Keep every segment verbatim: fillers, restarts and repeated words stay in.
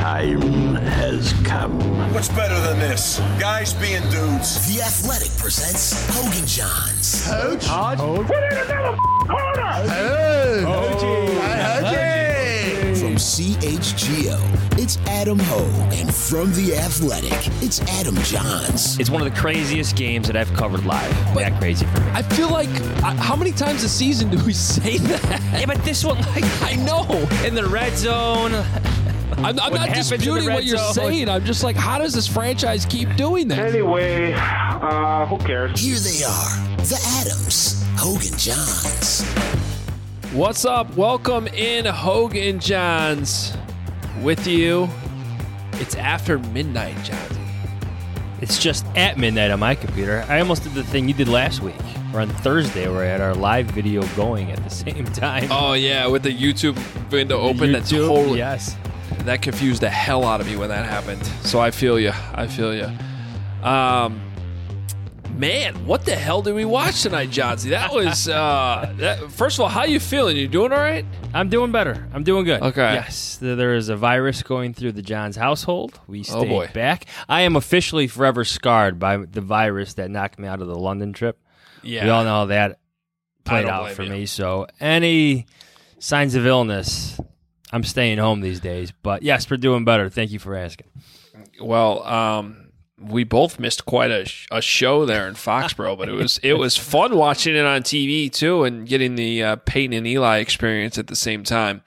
time has come. What's better than this? Guys being dudes. The Athletic presents Hogan Johns. Coach? Hodge? Put in another corner! Hey! Hoagie! Hoagie! From C H G O, it's Adam Hogue. And from The Athletic, it's Adam Johns. It's one of the craziest games that I've covered live. But that crazy for me. I feel like, uh, how many times a season do we say that? Yeah, but this one, like, I know. in the red zone. I'm, I'm What not happens in the disputing red what you're zone? saying. I'm just like, how does this franchise keep doing that? Anyway, uh, who cares? Here they are, the Adams, Hogan Johns. What's up? Welcome in, Hogan Johns. With you, it's after midnight, Johns. It's just at midnight on my computer. I almost did the thing you did last week, or on Thursday, where I had our live video going at the same time. Oh, yeah, with the YouTube window open. That YouTube, totally, yes. that confused the hell out of me when that happened. So I feel you. I feel you. Um, man, what the hell did we watch tonight, Johnsy? That was, uh, that, first of all, how you feeling? You doing all right? I'm doing better. I'm doing good. Okay. Yes, th- there is a virus going through the Johns household. We Oh, stayed boy. back. I am officially forever scarred by the virus that knocked me out of the London trip. Yeah. We all know how that I played don't out blame for you. me. So any signs of illness, I'm staying home these days. But yes, we're doing better. Thank you for asking. Well, um, we both missed quite a, sh- a show there in Foxborough, but it was it was fun watching it on T V too, and getting the uh, Peyton and Eli experience at the same time.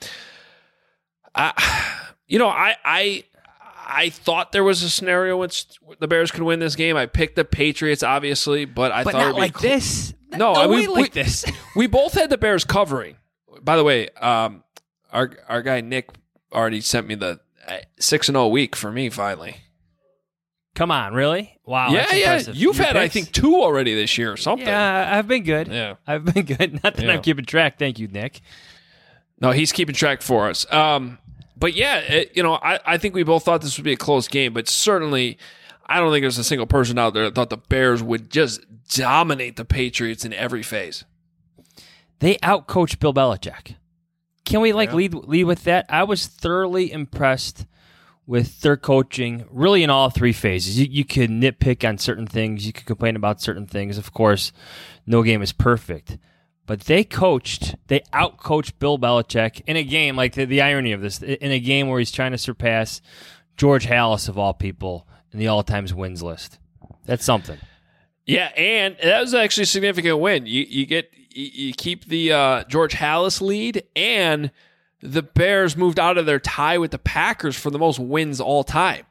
I, you know, I I I thought there was a scenario in which the Bears could win this game. I picked the Patriots, obviously, but I But thought not it'd be like cl- this. No, no I- we- way like we- this. We both had the Bears covering. By the way, um, our our guy Nick already sent me the six and zero week for me finally. Come on, really? Wow. yeah, that's yeah. impressive. You've Your had, I picks? think, two already this year or something. Yeah, I've been good. Yeah. I've been good. Not that Yeah. I'm keeping track. Thank you, Nick. No, he's keeping track for us. Um, but yeah, it, you know, I, I think we both thought this would be a close game, but certainly I don't think there's a single person out there that thought the Bears would just dominate the Patriots in every phase. They outcoached Bill Belichick. Can we like Yeah. lead lead with that? I was thoroughly impressed with their coaching, really in all three phases. You, you could nitpick on certain things. You could complain about certain things. Of course, no game is perfect. But they coached, they outcoached Bill Belichick in a game, like the, the irony of this, in a game where he's trying to surpass George Halas, of all people, in the all-time wins list. That's something. Yeah, and that was actually a significant win. You you get you, you keep the uh, George Halas lead, and the Bears moved out of their tie with the Packers for the most wins all time.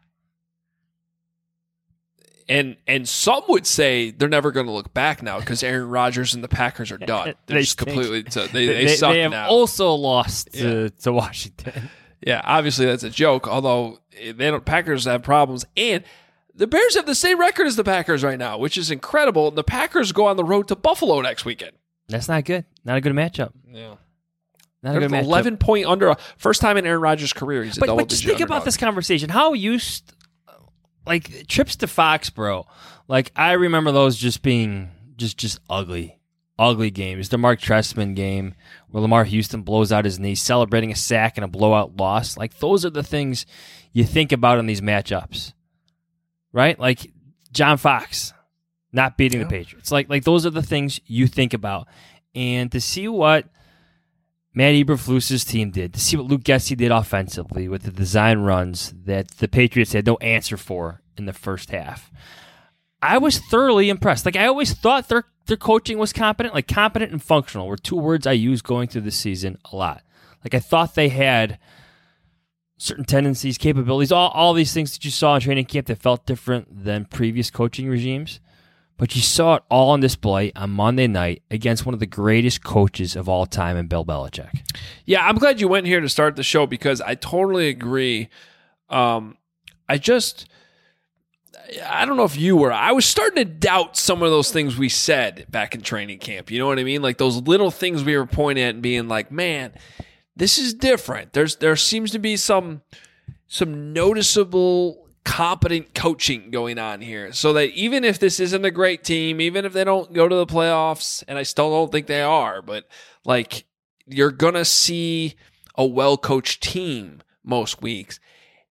And and some would say they're never going to look back now because Aaron Rodgers and the Packers are done. They're They just stink. completely so they they, they, suck they have now. also lost to, to Washington. Yeah, obviously that's a joke. Although they don't, Packers have problems, and the Bears have the same record as the Packers right now, which is incredible. And the Packers go on the road to Buffalo next weekend. That's not good. Not a good matchup. Yeah. Not a They're good matchup. eleven point under. First time in Aaron Rodgers' career, he's a But, double but just digit think about underdog. this conversation. How you, st- like, trips to Foxborough, like, I remember those just being just just ugly, ugly games. The Mark Trestman game where Lamar Houston blows out his knee, celebrating a sack and a blowout loss. Like, those are the things you think about in these matchups, right? Like, John Fox not beating Yeah. the Patriots. Like, like those are the things you think about. And to see what Matt Eberflus's team did, to see what Luke Getsy did offensively with the design runs that the Patriots had no answer for in the first half, I was thoroughly impressed. Like, I always thought their their coaching was competent. Like, competent and functional were two words I used going through the season a lot. Like, I thought they had certain tendencies, capabilities, all, all these things that you saw in training camp that felt different than previous coaching regimes. But you saw it all on display on Monday night against one of the greatest coaches of all time in Bill Belichick. Yeah, I'm glad you went here to start the show because I totally agree. Um, I just, I don't know if you were. I was starting to doubt some of those things we said back in training camp. You know what I mean? Like those little things we were pointing at and being like, man, this is different. There's there seems to be some some noticeable competent coaching going on here, so that even if this isn't a great team, even if they don't go to the playoffs, and I still don't think they are, but like you're gonna see a well-coached team most weeks.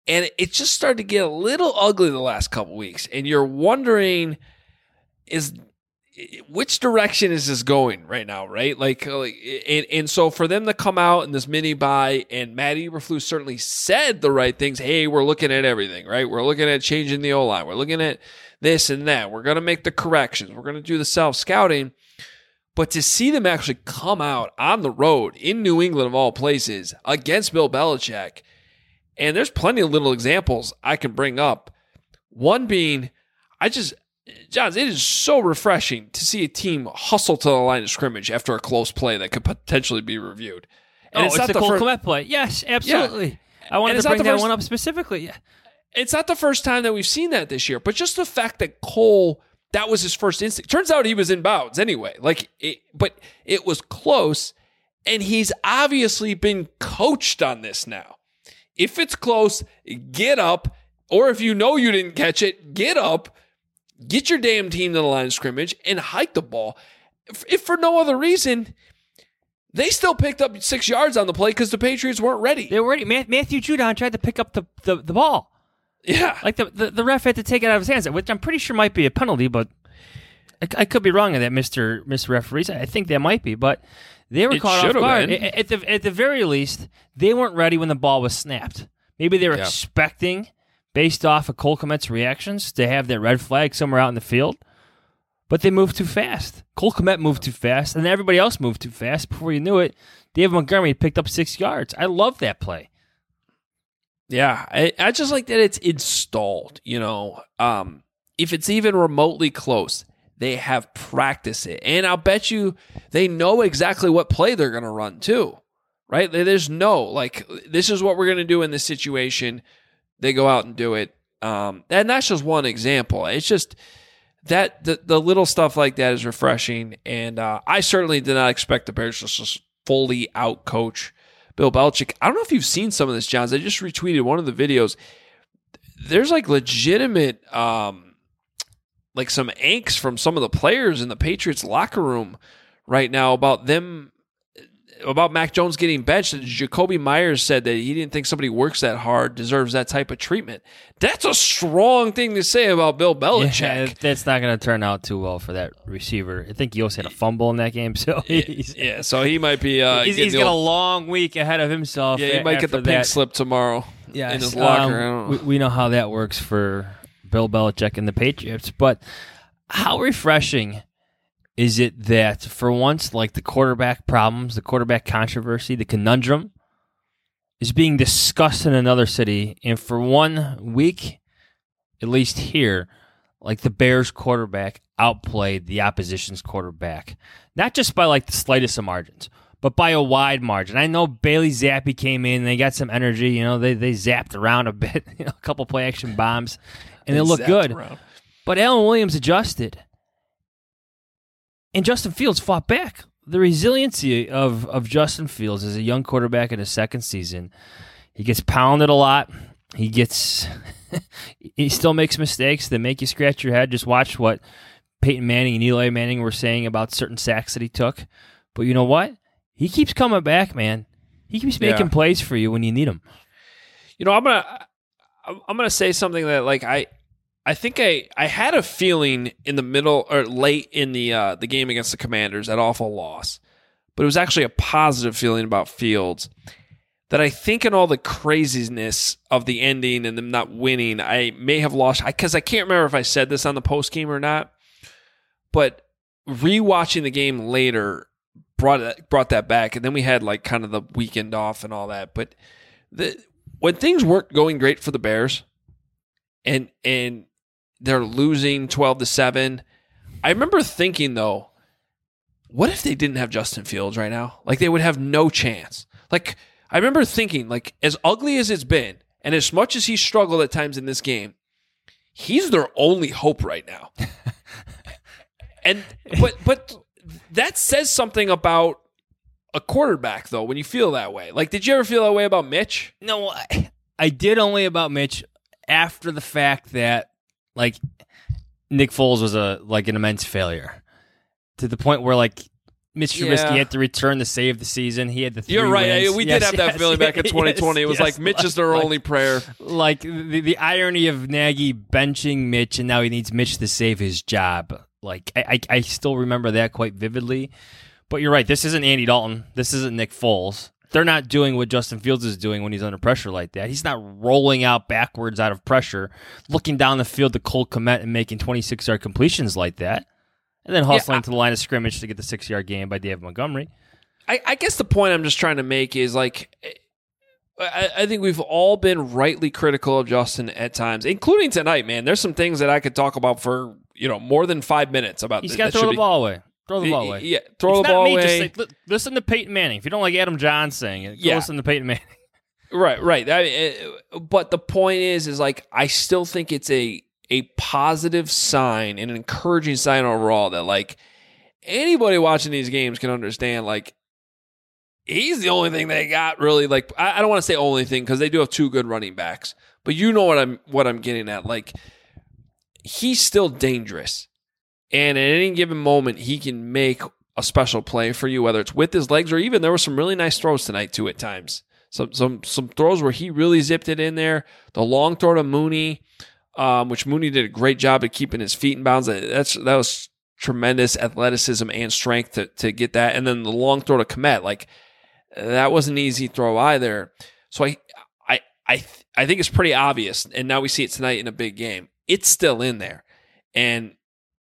And it just started to get a little ugly the last couple weeks. And you're wondering, is which direction is this going right now, right? Like, like and, and so for them to come out in this mini bye, and Matt Eberflus certainly said the right things. Hey, we're looking at everything, right? We're looking at changing the O-line. We're looking at this and that. We're going to make the corrections. We're going to do the self-scouting. But to see them actually come out on the road in New England, of all places, against Bill Belichick, and there's plenty of little examples I can bring up. One being, I just, Johns, it is so refreshing to see a team hustle to the line of scrimmage after a close play that could potentially be reviewed. And oh, it's, it's, not the the Cole fir- Kmet play. Yes, absolutely. Yeah. I wanted And to it's not bring the that first- one up specifically. Yeah. It's not the first time that we've seen that this year, but just the fact that Cole, that was his first instinct. Turns out he was in bounds anyway. Like, it, but it was close, and he's obviously been coached on this now. If it's close, get up, or if you know you didn't catch it, get up, get your damn team to the line of scrimmage, and hike the ball. If, if for no other reason, they still picked up six yards on the play because the Patriots weren't ready. They were ready. Matthew Judon tried to pick up the, the, the ball. Yeah. Like the, the, the ref had to take it out of his hands, which I'm pretty sure might be a penalty, but I, I could be wrong on that, Mister Mister Referees. I think that might be, but they were It caught off should have guard. been. At the, at the very least, they weren't ready when the ball was snapped. Maybe they were Yeah. expecting, based off of Cole Kmet's reactions, to have that red flag somewhere out in the field, but they moved too fast. Cole Kmet moved too fast, and everybody else moved too fast. Before you knew it, David Montgomery picked up six yards. I love that play. Yeah, I, I just like that it's installed, you know. Um, if it's even remotely close, they have practiced it. And I'll bet you they know exactly what play they're going to run too, right? There's no, like, this is what we're going to do in this situation. They go out and do it. Um, and that's just one example. It's just that the, the little stuff like that is refreshing. And uh, I certainly did not expect the Bears to just fully out-coach Bill Belichick. I don't know if you've seen some of this, Johns. I just retweeted one of the videos. There's like legitimate, um, like some angst from some of the players in the Patriots locker room right now about them, about Mac Jones getting benched. Jacoby Myers said that he didn't think somebody who works that hard deserves that type of treatment. That's a strong thing to say about Bill Belichick. Yeah, that's not going to turn out too well for that receiver. I think he also had a fumble in that game, so he's, Yeah, so he might be. Uh, he's, getting he's the got a old- long week ahead of himself. Yeah, he a- might get the after pink that. slip tomorrow Yes, in his locker. um, I don't know. we, we know how that works for Bill Belichick and the Patriots, but how refreshing is it that for once, like the quarterback problems, the quarterback controversy, the conundrum is being discussed in another city, and for one week, at least here, like the Bears quarterback outplayed the opposition's quarterback, not just by like the slightest of margins, but by a wide margin. I know Bailey Zappi came in, and they got some energy, you know, they they zapped around a bit, you know, a couple play action bombs, and they looked Zapped good. around. But Allen Williams adjusted. And Justin Fields fought back. The resiliency of, of Justin Fields as a young quarterback in his second season, he gets pounded a lot. He gets, he still makes mistakes that make you scratch your head. Just watch what Peyton Manning and Eli Manning were saying about certain sacks that he took. But you know what? He keeps coming back, man. He keeps making Yeah. plays for you when you need him. You know, I'm gonna I'm gonna say something that like I I think I, I had a feeling in the middle or late in the uh, the game against the Commanders, that awful loss, but it was actually a positive feeling about Fields. That I think in all the craziness of the ending and them not winning, I may have lost because I, I can't remember if I said this on the post game or not. But rewatching the game later brought it, brought that back, and then we had like kind of the weekend off and all that. But the when things weren't going great for the Bears, and and they're losing twelve to seven. I remember thinking, though, what if they didn't have Justin Fields right now? Like, they would have no chance. Like, I remember thinking, like, as ugly as it's been, and as much as he struggled at times in this game, he's their only hope right now. and but but that says something about a quarterback, though, when you feel that way. Like, did you ever feel that way about Mitch? No, I, I did only about Mitch after the fact that, like, Nick Foles was a like an immense failure to the point where, like, Mitch Yeah. Trubisky had to return to save the season. He had the three You're right. wins. We Yes, did have that yes, feeling back in yes, twenty twenty. It was yes, like Mitch is their like, only prayer. Like the, the irony of Nagy benching Mitch, and now he needs Mitch to save his job. Like I, I, I still remember that quite vividly. But you're right. This isn't Andy Dalton. This isn't Nick Foles. They're not doing what Justin Fields is doing when he's under pressure like that. He's not rolling out backwards out of pressure, looking down the field to Cole Kmet and making twenty-six-yard completions like that, and then hustling Yeah, I, to the line of scrimmage to get the six-yard gain by David Montgomery. I, I guess the point I'm just trying to make is like, I, I think we've all been rightly critical of Justin at times, including tonight, man. There's some things that I could talk about for, you know, more than five minutes about. He's th- got to that throw should the ball away. Throw the ball away. Yeah, throw it's the ball not me, away. Just say, listen to Peyton Manning. If you don't like Adam John saying it, go Yeah. listen to Peyton Manning. Right, right. I, uh, but the point is, is like I still think it's a a positive sign and an encouraging sign overall that like anybody watching these games can understand. Like he's the only thing they got really. Like I, I don't want to say only thing because they do have two good running backs, but you know what I'm what I'm getting at. Like he's still dangerous, and at any given moment he can make a special play for you, whether it's with his legs or even there were some really nice throws tonight too at times. Some some some throws where he really zipped it in there. The long throw to Mooney, um, which Mooney did a great job at keeping his feet in bounds. That's that was tremendous athleticism and strength to to get that. And then the long throw to Kmet, like that wasn't an easy throw either. So I I I I think it's pretty obvious. And now we see it tonight in a big game. It's still in there, and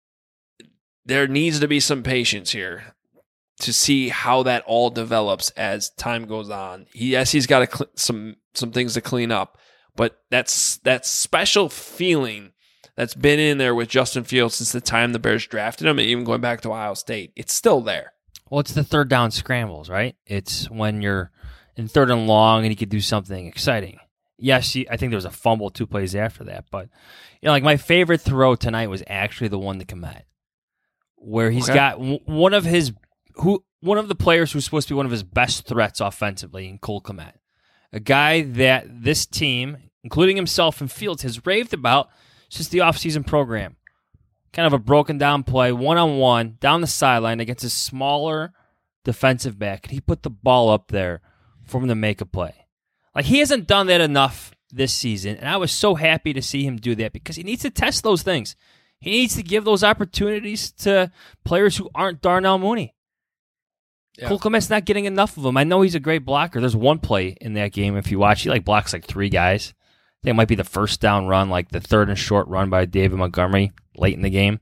there needs to be some patience here to see how that all develops as time goes on. He, yes, he's got cl- some some things to clean up, but that's that special feeling that's been in there with Justin Fields since the time the Bears drafted him, and even going back to Ohio State, it's still there. Well, it's the third down scrambles, right? It's when you're in third and long and you could do something exciting. Yes, he, I think there was a fumble two plays after that, but you know, like my favorite throw tonight was actually the one to Kmet, where he's Okay. got w- one of his who one of the players who's supposed to be one of his best threats offensively in Cole Kmet, a guy that this team, including himself and Fields, has raved about since the offseason program. Kind of a broken down play, one-on-one, down the sideline against a smaller defensive back. And he put the ball up there for him to make a play. Like, he hasn't done that enough this season, and I was so happy to see him do that because he needs to test those things. He needs to give those opportunities to players who aren't Darnell Mooney. Yeah. Cole Kmet's not getting enough of them. I know he's a great blocker. There's one play in that game, if you watch, he like blocks like three guys. I think it might be the first down run, like the third and short run by David Montgomery late in the game.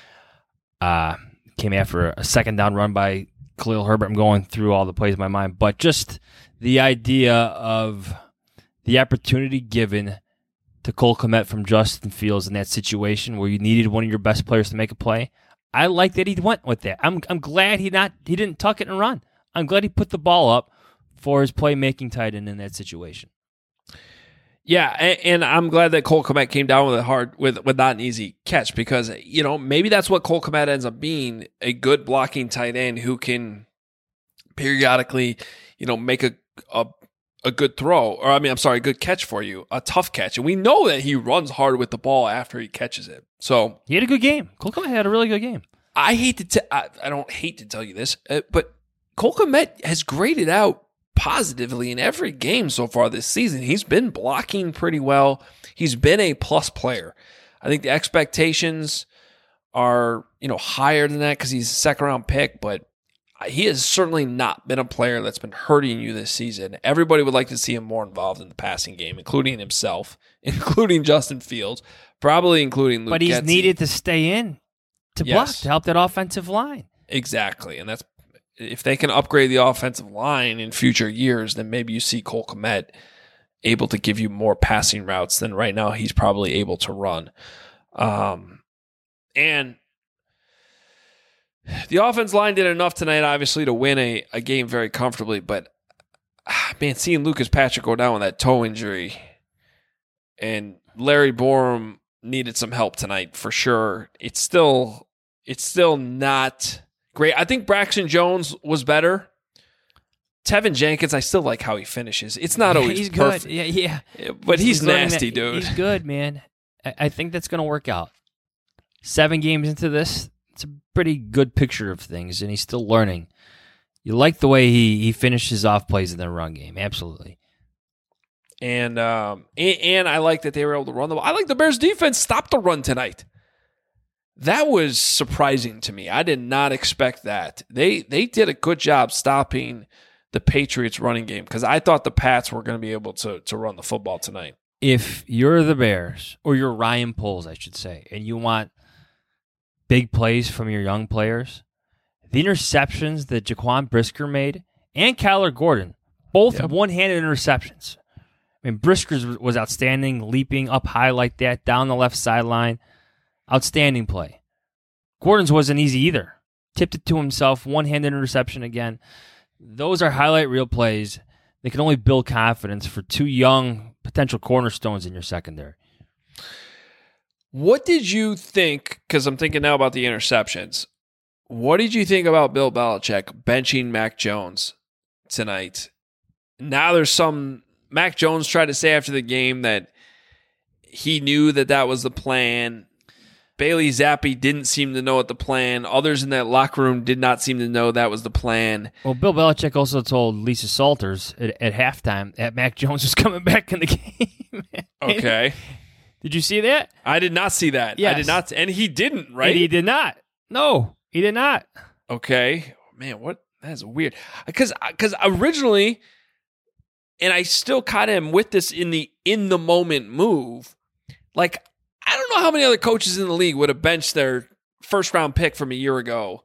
Uh, came after a second down run by Khalil Herbert. I'm going through all the plays in my mind, but just the idea of the opportunity given to Cole Kmet from Justin Fields in that situation where you needed one of your best players to make a play. I like that he went with that. I'm I'm glad he not he didn't tuck it and run. I'm glad he put the ball up for his playmaking tight end in that situation. Yeah, and, and I'm glad that Cole Kmet came down with a hard with with not an easy catch because you know maybe that's what Cole Kmet ends up being, a good blocking tight end who can periodically you know make a a a good throw, or I mean I'm sorry, a good catch for you, a tough catch, and we know that he runs hard with the ball after he catches it. So He had a good game. Cole Kmet had a really good game. I hate to t- I, I don't hate to tell you this, uh, but Cole Kmet has graded out positively in every game so far this season. He's been blocking pretty well. He's been a plus player. I think the expectations are, you know, higher than that because he's a second round pick, but he has certainly not been a player that's been hurting you this season. Everybody would like to see him more involved in the passing game, including himself, including Justin Fields, probably including Luke But he's Getsy. needed to stay in to block, Yes. to help that offensive line. Exactly, and that's if they can upgrade the offensive line in future years, then maybe you see Cole Kmet able to give you more passing routes than right now he's probably able to run. Um, and the offense line did enough tonight, obviously, to win a, a game very comfortably. But man, seeing Lucas Patrick go down with that toe injury, and Larry Borum needed some help tonight for sure. It's still, it's still not great. I think Braxton Jones was better. Tevin Jenkins, I still like how he finishes. It's not always he's perfect, good. Yeah, yeah. but he's, learning nasty, that- dude. He's good, man. I, I think that's going to work out. Seven games into this, it's a pretty good picture of things, and he's still learning. You like the way he, he finishes off plays in the run game. Absolutely. And, um, and and I like that they were able to run the ball. I like the Bears defense stopped the run tonight. That was surprising to me. I did not expect that. They they did a good job stopping the Patriots running game because I thought the Pats were going to be able to to run the football tonight. If you're the Bears, or you're Ryan Poles, I should say, and you want big plays from your young players, the interceptions that Jaquan Brisker made and Kyler Gordon, both yep. one-handed interceptions. I mean, Brisker's was outstanding, leaping up high like that, down the left sideline. Outstanding play. Gordon's wasn't easy either. Tipped it to himself, one-handed interception again. Those are highlight reel plays. They can only build confidence for two young potential cornerstones in your secondary. What did you think, because I'm thinking now about the interceptions, what did you think about Bill Belichick benching Mac Jones tonight? Now there's some... Mac Jones tried to say after the game that he knew that that was the plan. Bailey Zappi didn't seem to know what the plan. Others in that locker room did not seem to know that was the plan. Well, Bill Belichick also told Lisa Salters at, at halftime that Mac Jones was coming back in the game. Okay. Did you see that? I did not see that. Yes. I did not. And he didn't, right? And he did not. No, he did not. Okay. Man, what? That's weird. Because because originally... And I still kind of am with this in the in the moment move. Like, I don't know how many other coaches in the league would have benched their first round pick from a year ago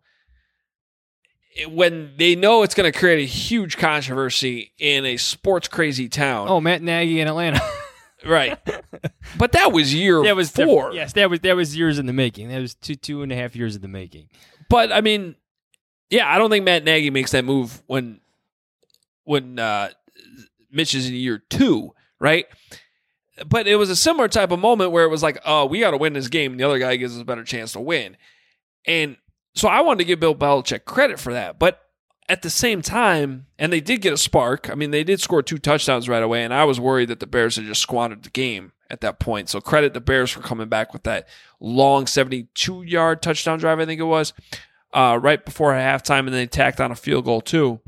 when they know it's going to create a huge controversy in a sports crazy town. Oh, Matt Nagy in Atlanta. Right. But that was year that was four. Yes, that was that was years in the making. That was two two and a half years in the making. But I mean, yeah, I don't think Matt Nagy makes that move when when uh Mitch is in year two, right? But it was a similar type of moment where it was like, oh, we got to win this game, and the other guy gives us a better chance to win. And so I wanted to give Bill Belichick credit for that. But at the same time, and they did get a spark. I mean, they did score two touchdowns right away, and I was worried that the Bears had just squandered the game at that point. So credit the Bears for coming back with that long seventy-two-yard touchdown drive, I think it was, uh, right before halftime, and then they tacked on a field goal too.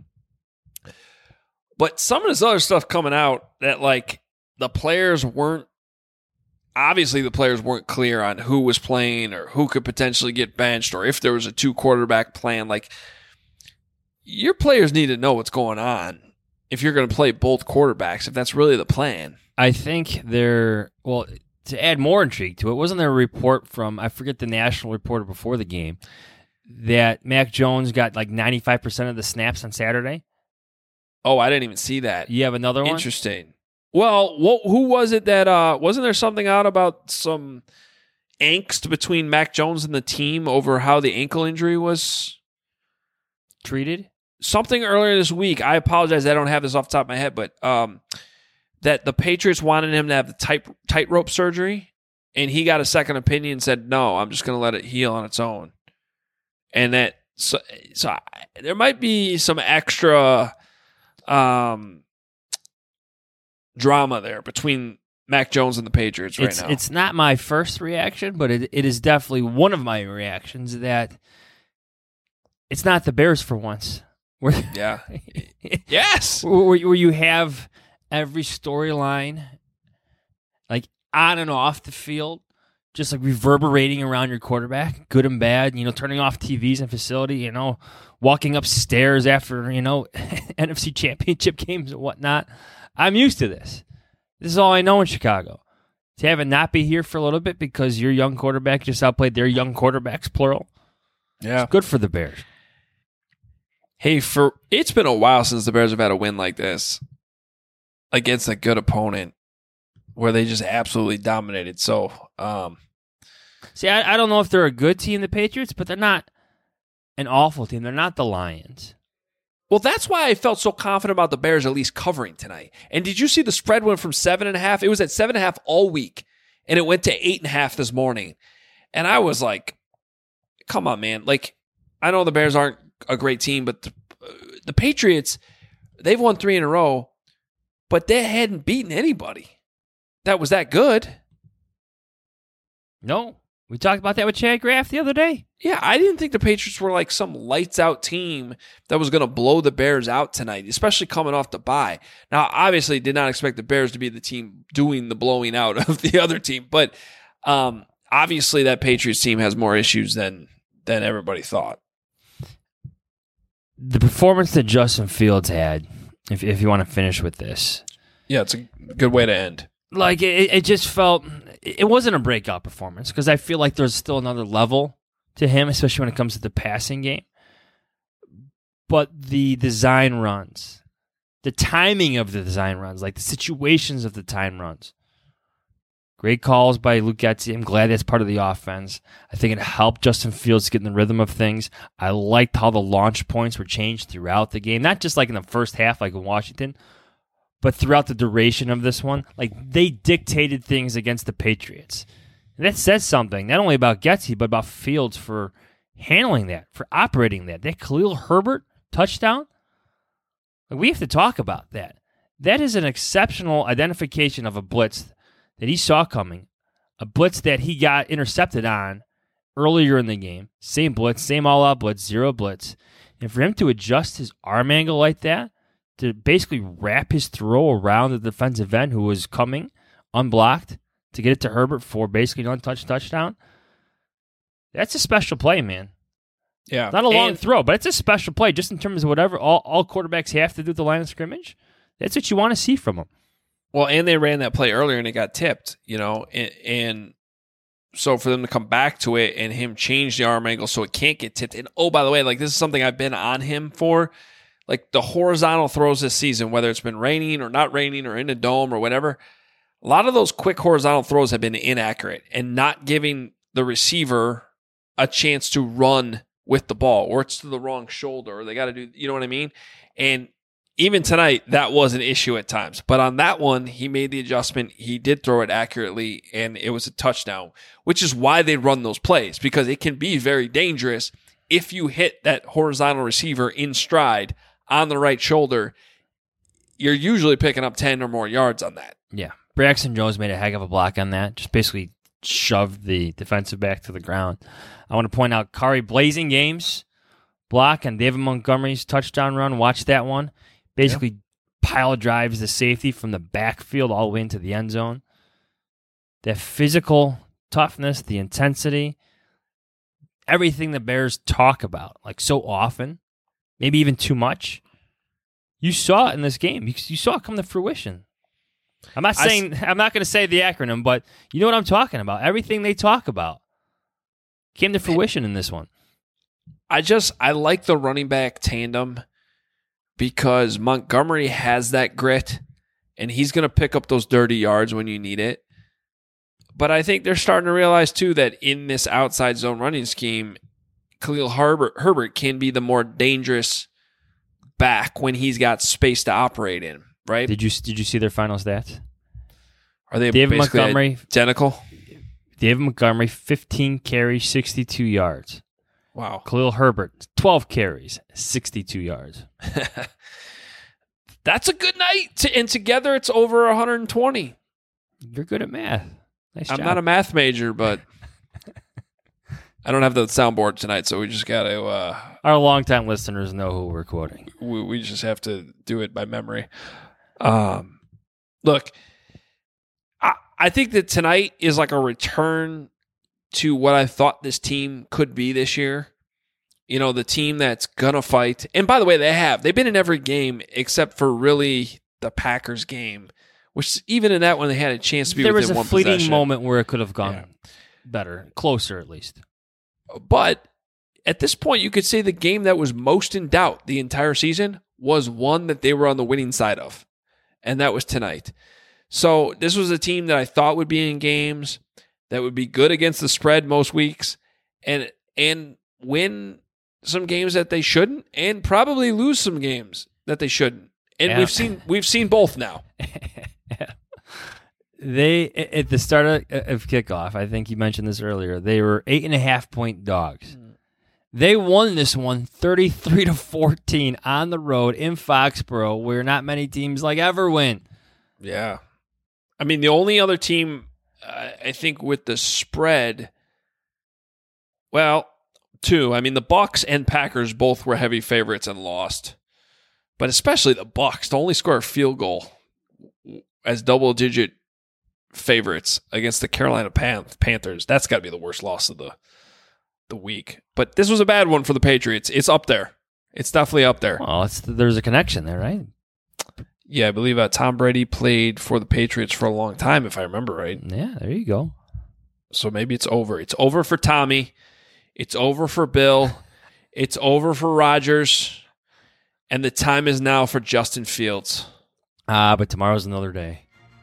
But some of this other stuff coming out that, like, the players weren't, obviously the players weren't clear on who was playing or who could potentially get benched or if there was a two-quarterback plan. Like, your players need to know what's going on if you're going to play both quarterbacks, if that's really the plan. I think they're, well, to add more intrigue to it, wasn't there a report from, I forget the national reporter before the game, that Mac Jones got like ninety-five percent of the snaps on Saturday? Oh, I didn't even see that. You have another one? Interesting. Well, what, who was it that, uh, wasn't there something out about some angst between Mac Jones and the team over how the ankle injury was treated? Something earlier this week. I apologize, I don't have this off the top of my head, but um, that the Patriots wanted him to have the tight tightrope surgery, and he got a second opinion and said, no, I'm just going to let it heal on its own. And that, so, so I, there might be some extra... Um, drama there between Mac Jones and the Patriots right it's, now. It's not my first reaction, but it, it is definitely one of my reactions that it's not the Bears for once. Where, yeah. Yes. Where, where you have every storyline, like on and off the field, just like reverberating around your quarterback, good and bad, you know, turning off T Vs and facility, you know, walking upstairs after, you know, N F C championship games and whatnot. I'm used to this. This is all I know in Chicago. To have it not be here for a little bit because your young quarterback just outplayed their young quarterbacks, plural. Yeah. It's good for the Bears. Hey, for it's been a while since the Bears have had a win like this against a good opponent where they just absolutely dominated. So, um, see, I, I don't know if they're a good team, the Patriots, but they're not an awful team. They're not the Lions. Well, that's why I felt so confident about the Bears at least covering tonight. And did you see the spread went from seven and a half? It was at seven and a half all week, and it went to eight and a half this morning. And I was like, come on, man. Like, I know the Bears aren't a great team, but the, the Patriots, they've won three in a row, but they hadn't beaten anybody that was that good. No, We talked about that with Chad Graff the other day. Yeah, I didn't think the Patriots were like some lights-out team that was going to blow the Bears out tonight, especially coming off the bye. Now, obviously, did not expect the Bears to be the team doing the blowing out of the other team, but um, obviously that Patriots team has more issues than than everybody thought. The performance that Justin Fields had, if if you want to finish with this. Yeah, it's a good way to end. Like, it, it just felt, it wasn't a breakout performance because I feel like there's still another level to him, especially when it comes to the passing game. But the design runs, the timing of the design runs, like the situations of the time runs. Great calls by Luke Getsy. I'm glad that's part of the offense. I think it helped Justin Fields get in the rhythm of things. I liked how the launch points were changed throughout the game, not just like in the first half like in Washington, but throughout the duration of this one. Like, they dictated things against the Patriots. And that says something, not only about Getsy, but about Fields for handling that, for operating that. That Khalil Herbert touchdown, like, we have to talk about that. That is an exceptional identification of a blitz that he saw coming, a blitz that he got intercepted on earlier in the game. Same blitz, same all-out blitz, zero blitz. And for him to adjust his arm angle like that, to basically wrap his throw around the defensive end who was coming unblocked to get it to Herbert for basically an untouched touchdown, that's a special play, man. Yeah. Not a long and, throw, but it's a special play just in terms of whatever all, all quarterbacks have to do at the line of scrimmage. That's what you want to see from them. Well, and they ran that play earlier and it got tipped, you know, and, and so for them to come back to it and him change the arm angle so it can't get tipped. And oh, by the way, like, this is something I've been on him for. Like, the horizontal throws this season, whether it's been raining or not raining or in a dome or whatever, a lot of those quick horizontal throws have been inaccurate and not giving the receiver a chance to run with the ball, or it's to the wrong shoulder, or they got to do, you know what I mean? And even tonight, that was an issue at times. But on that one, he made the adjustment. He did throw it accurately, and it was a touchdown, which is why they run those plays, because it can be very dangerous if you hit that horizontal receiver in stride on the right shoulder. You're usually picking up ten or more yards on that. Yeah. Braxton Jones made a heck of a block on that. Just basically shoved the defensive back to the ground. I want to point out Kari Blazing Games block on David Montgomery's touchdown run. Watch that one. Basically yeah. pile drives the safety from the backfield all the way into the end zone. That physical toughness, the intensity, everything the Bears talk about, like, so often, maybe even too much. You saw it in this game. You, you saw it come to fruition. I'm not saying I, I'm not going to say the acronym, but you know what I'm talking about. Everything they talk about came to fruition in this one. I just I like the running back tandem because Montgomery has that grit, and he's going to pick up those dirty yards when you need it. But I think they're starting to realize too that in this outside zone running scheme, Khalil Herbert, Herbert can be the more dangerous back when he's got space to operate in, right? Did you did you see their final stats? Are they David basically Montgomery, identical? David Montgomery, fifteen carries, sixty-two yards. Wow. Khalil Herbert, twelve carries, sixty-two yards. That's a good night. And together it's over one hundred twenty. You're good at math. Nice I'm job. not a math major, but I don't have the soundboard tonight, so we just got to... Uh, Our longtime listeners know who we're quoting. We, we just have to do it by memory. Um, look, I, I think that tonight is like a return to what I thought this team could be this year. You know, the team that's going to fight. And by the way, they have. They've been in every game except for really the Packers game, which even in that one, they had a chance to be there within one was a fleeting possession. moment where it could have gone Yeah. better, closer at least. But at this point, you could say the game that was most in doubt the entire season was one that they were on the winning side of, and that was tonight. So this was a team that I thought would be in games, that would be good against the spread most weeks, and and win some games that they shouldn't, and probably lose some games that they shouldn't. And Yeah. we've seen we've seen both now. They at the start of, of kickoff, I think you mentioned this earlier. They were eight and a half point dogs. Mm. They won this one thirty-three to fourteen on the road in Foxborough, where not many teams like ever win. Yeah, I mean the only other team uh, I think with the spread Well, two. I mean, the Bucs and Packers both were heavy favorites and lost. But especially the Bucs to only score a field goal as double-digit favorites against the Carolina Pan- Panthers. That's got to be the worst loss of the the week. But this was a bad one for the Patriots. It's up there. It's definitely up there. Well, it's, there's a connection there, right? Yeah, I believe uh, Tom Brady played for the Patriots for a long time, if I remember right. Yeah, there you go. So maybe it's over. It's over for Tommy. It's over for Bill. It's over for Rodgers. And the time is now for Justin Fields. Ah, but tomorrow's another day.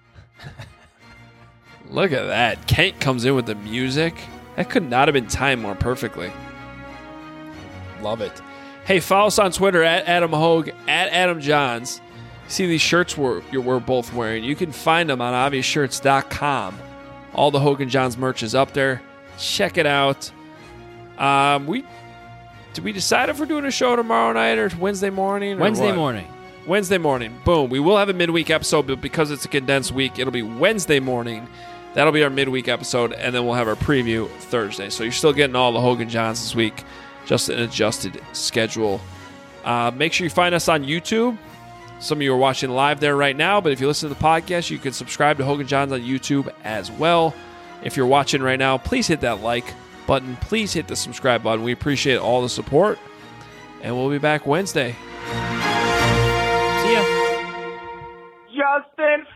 Look at that. Kent comes in with the music. That could not have been timed more perfectly. Love it. Hey, follow us on Twitter at Adam Hogue, at Adam Johns. See these shirts we're, we're both wearing. You can find them on obvious shirts dot com. All the Hogue and Johns merch is up there. Check it out. Um, we did we decide if we're doing a show tomorrow night or Wednesday morning? Or Wednesday what? morning. Wednesday morning. Boom. We will have a midweek episode, but because it's a condensed week, it'll be Wednesday morning. That'll be our midweek episode, and then we'll have our preview Thursday. So you're still getting all the Hogue and Johns this week, just an adjusted schedule. Uh, make sure you find us on YouTube. Some of you are watching live there right now, but if you listen to the podcast, you can subscribe to Hogue and Johns on YouTube as well. If you're watching right now, please hit that like button. Please hit the subscribe button. We appreciate all the support, and we'll be back Wednesday. See ya. Justin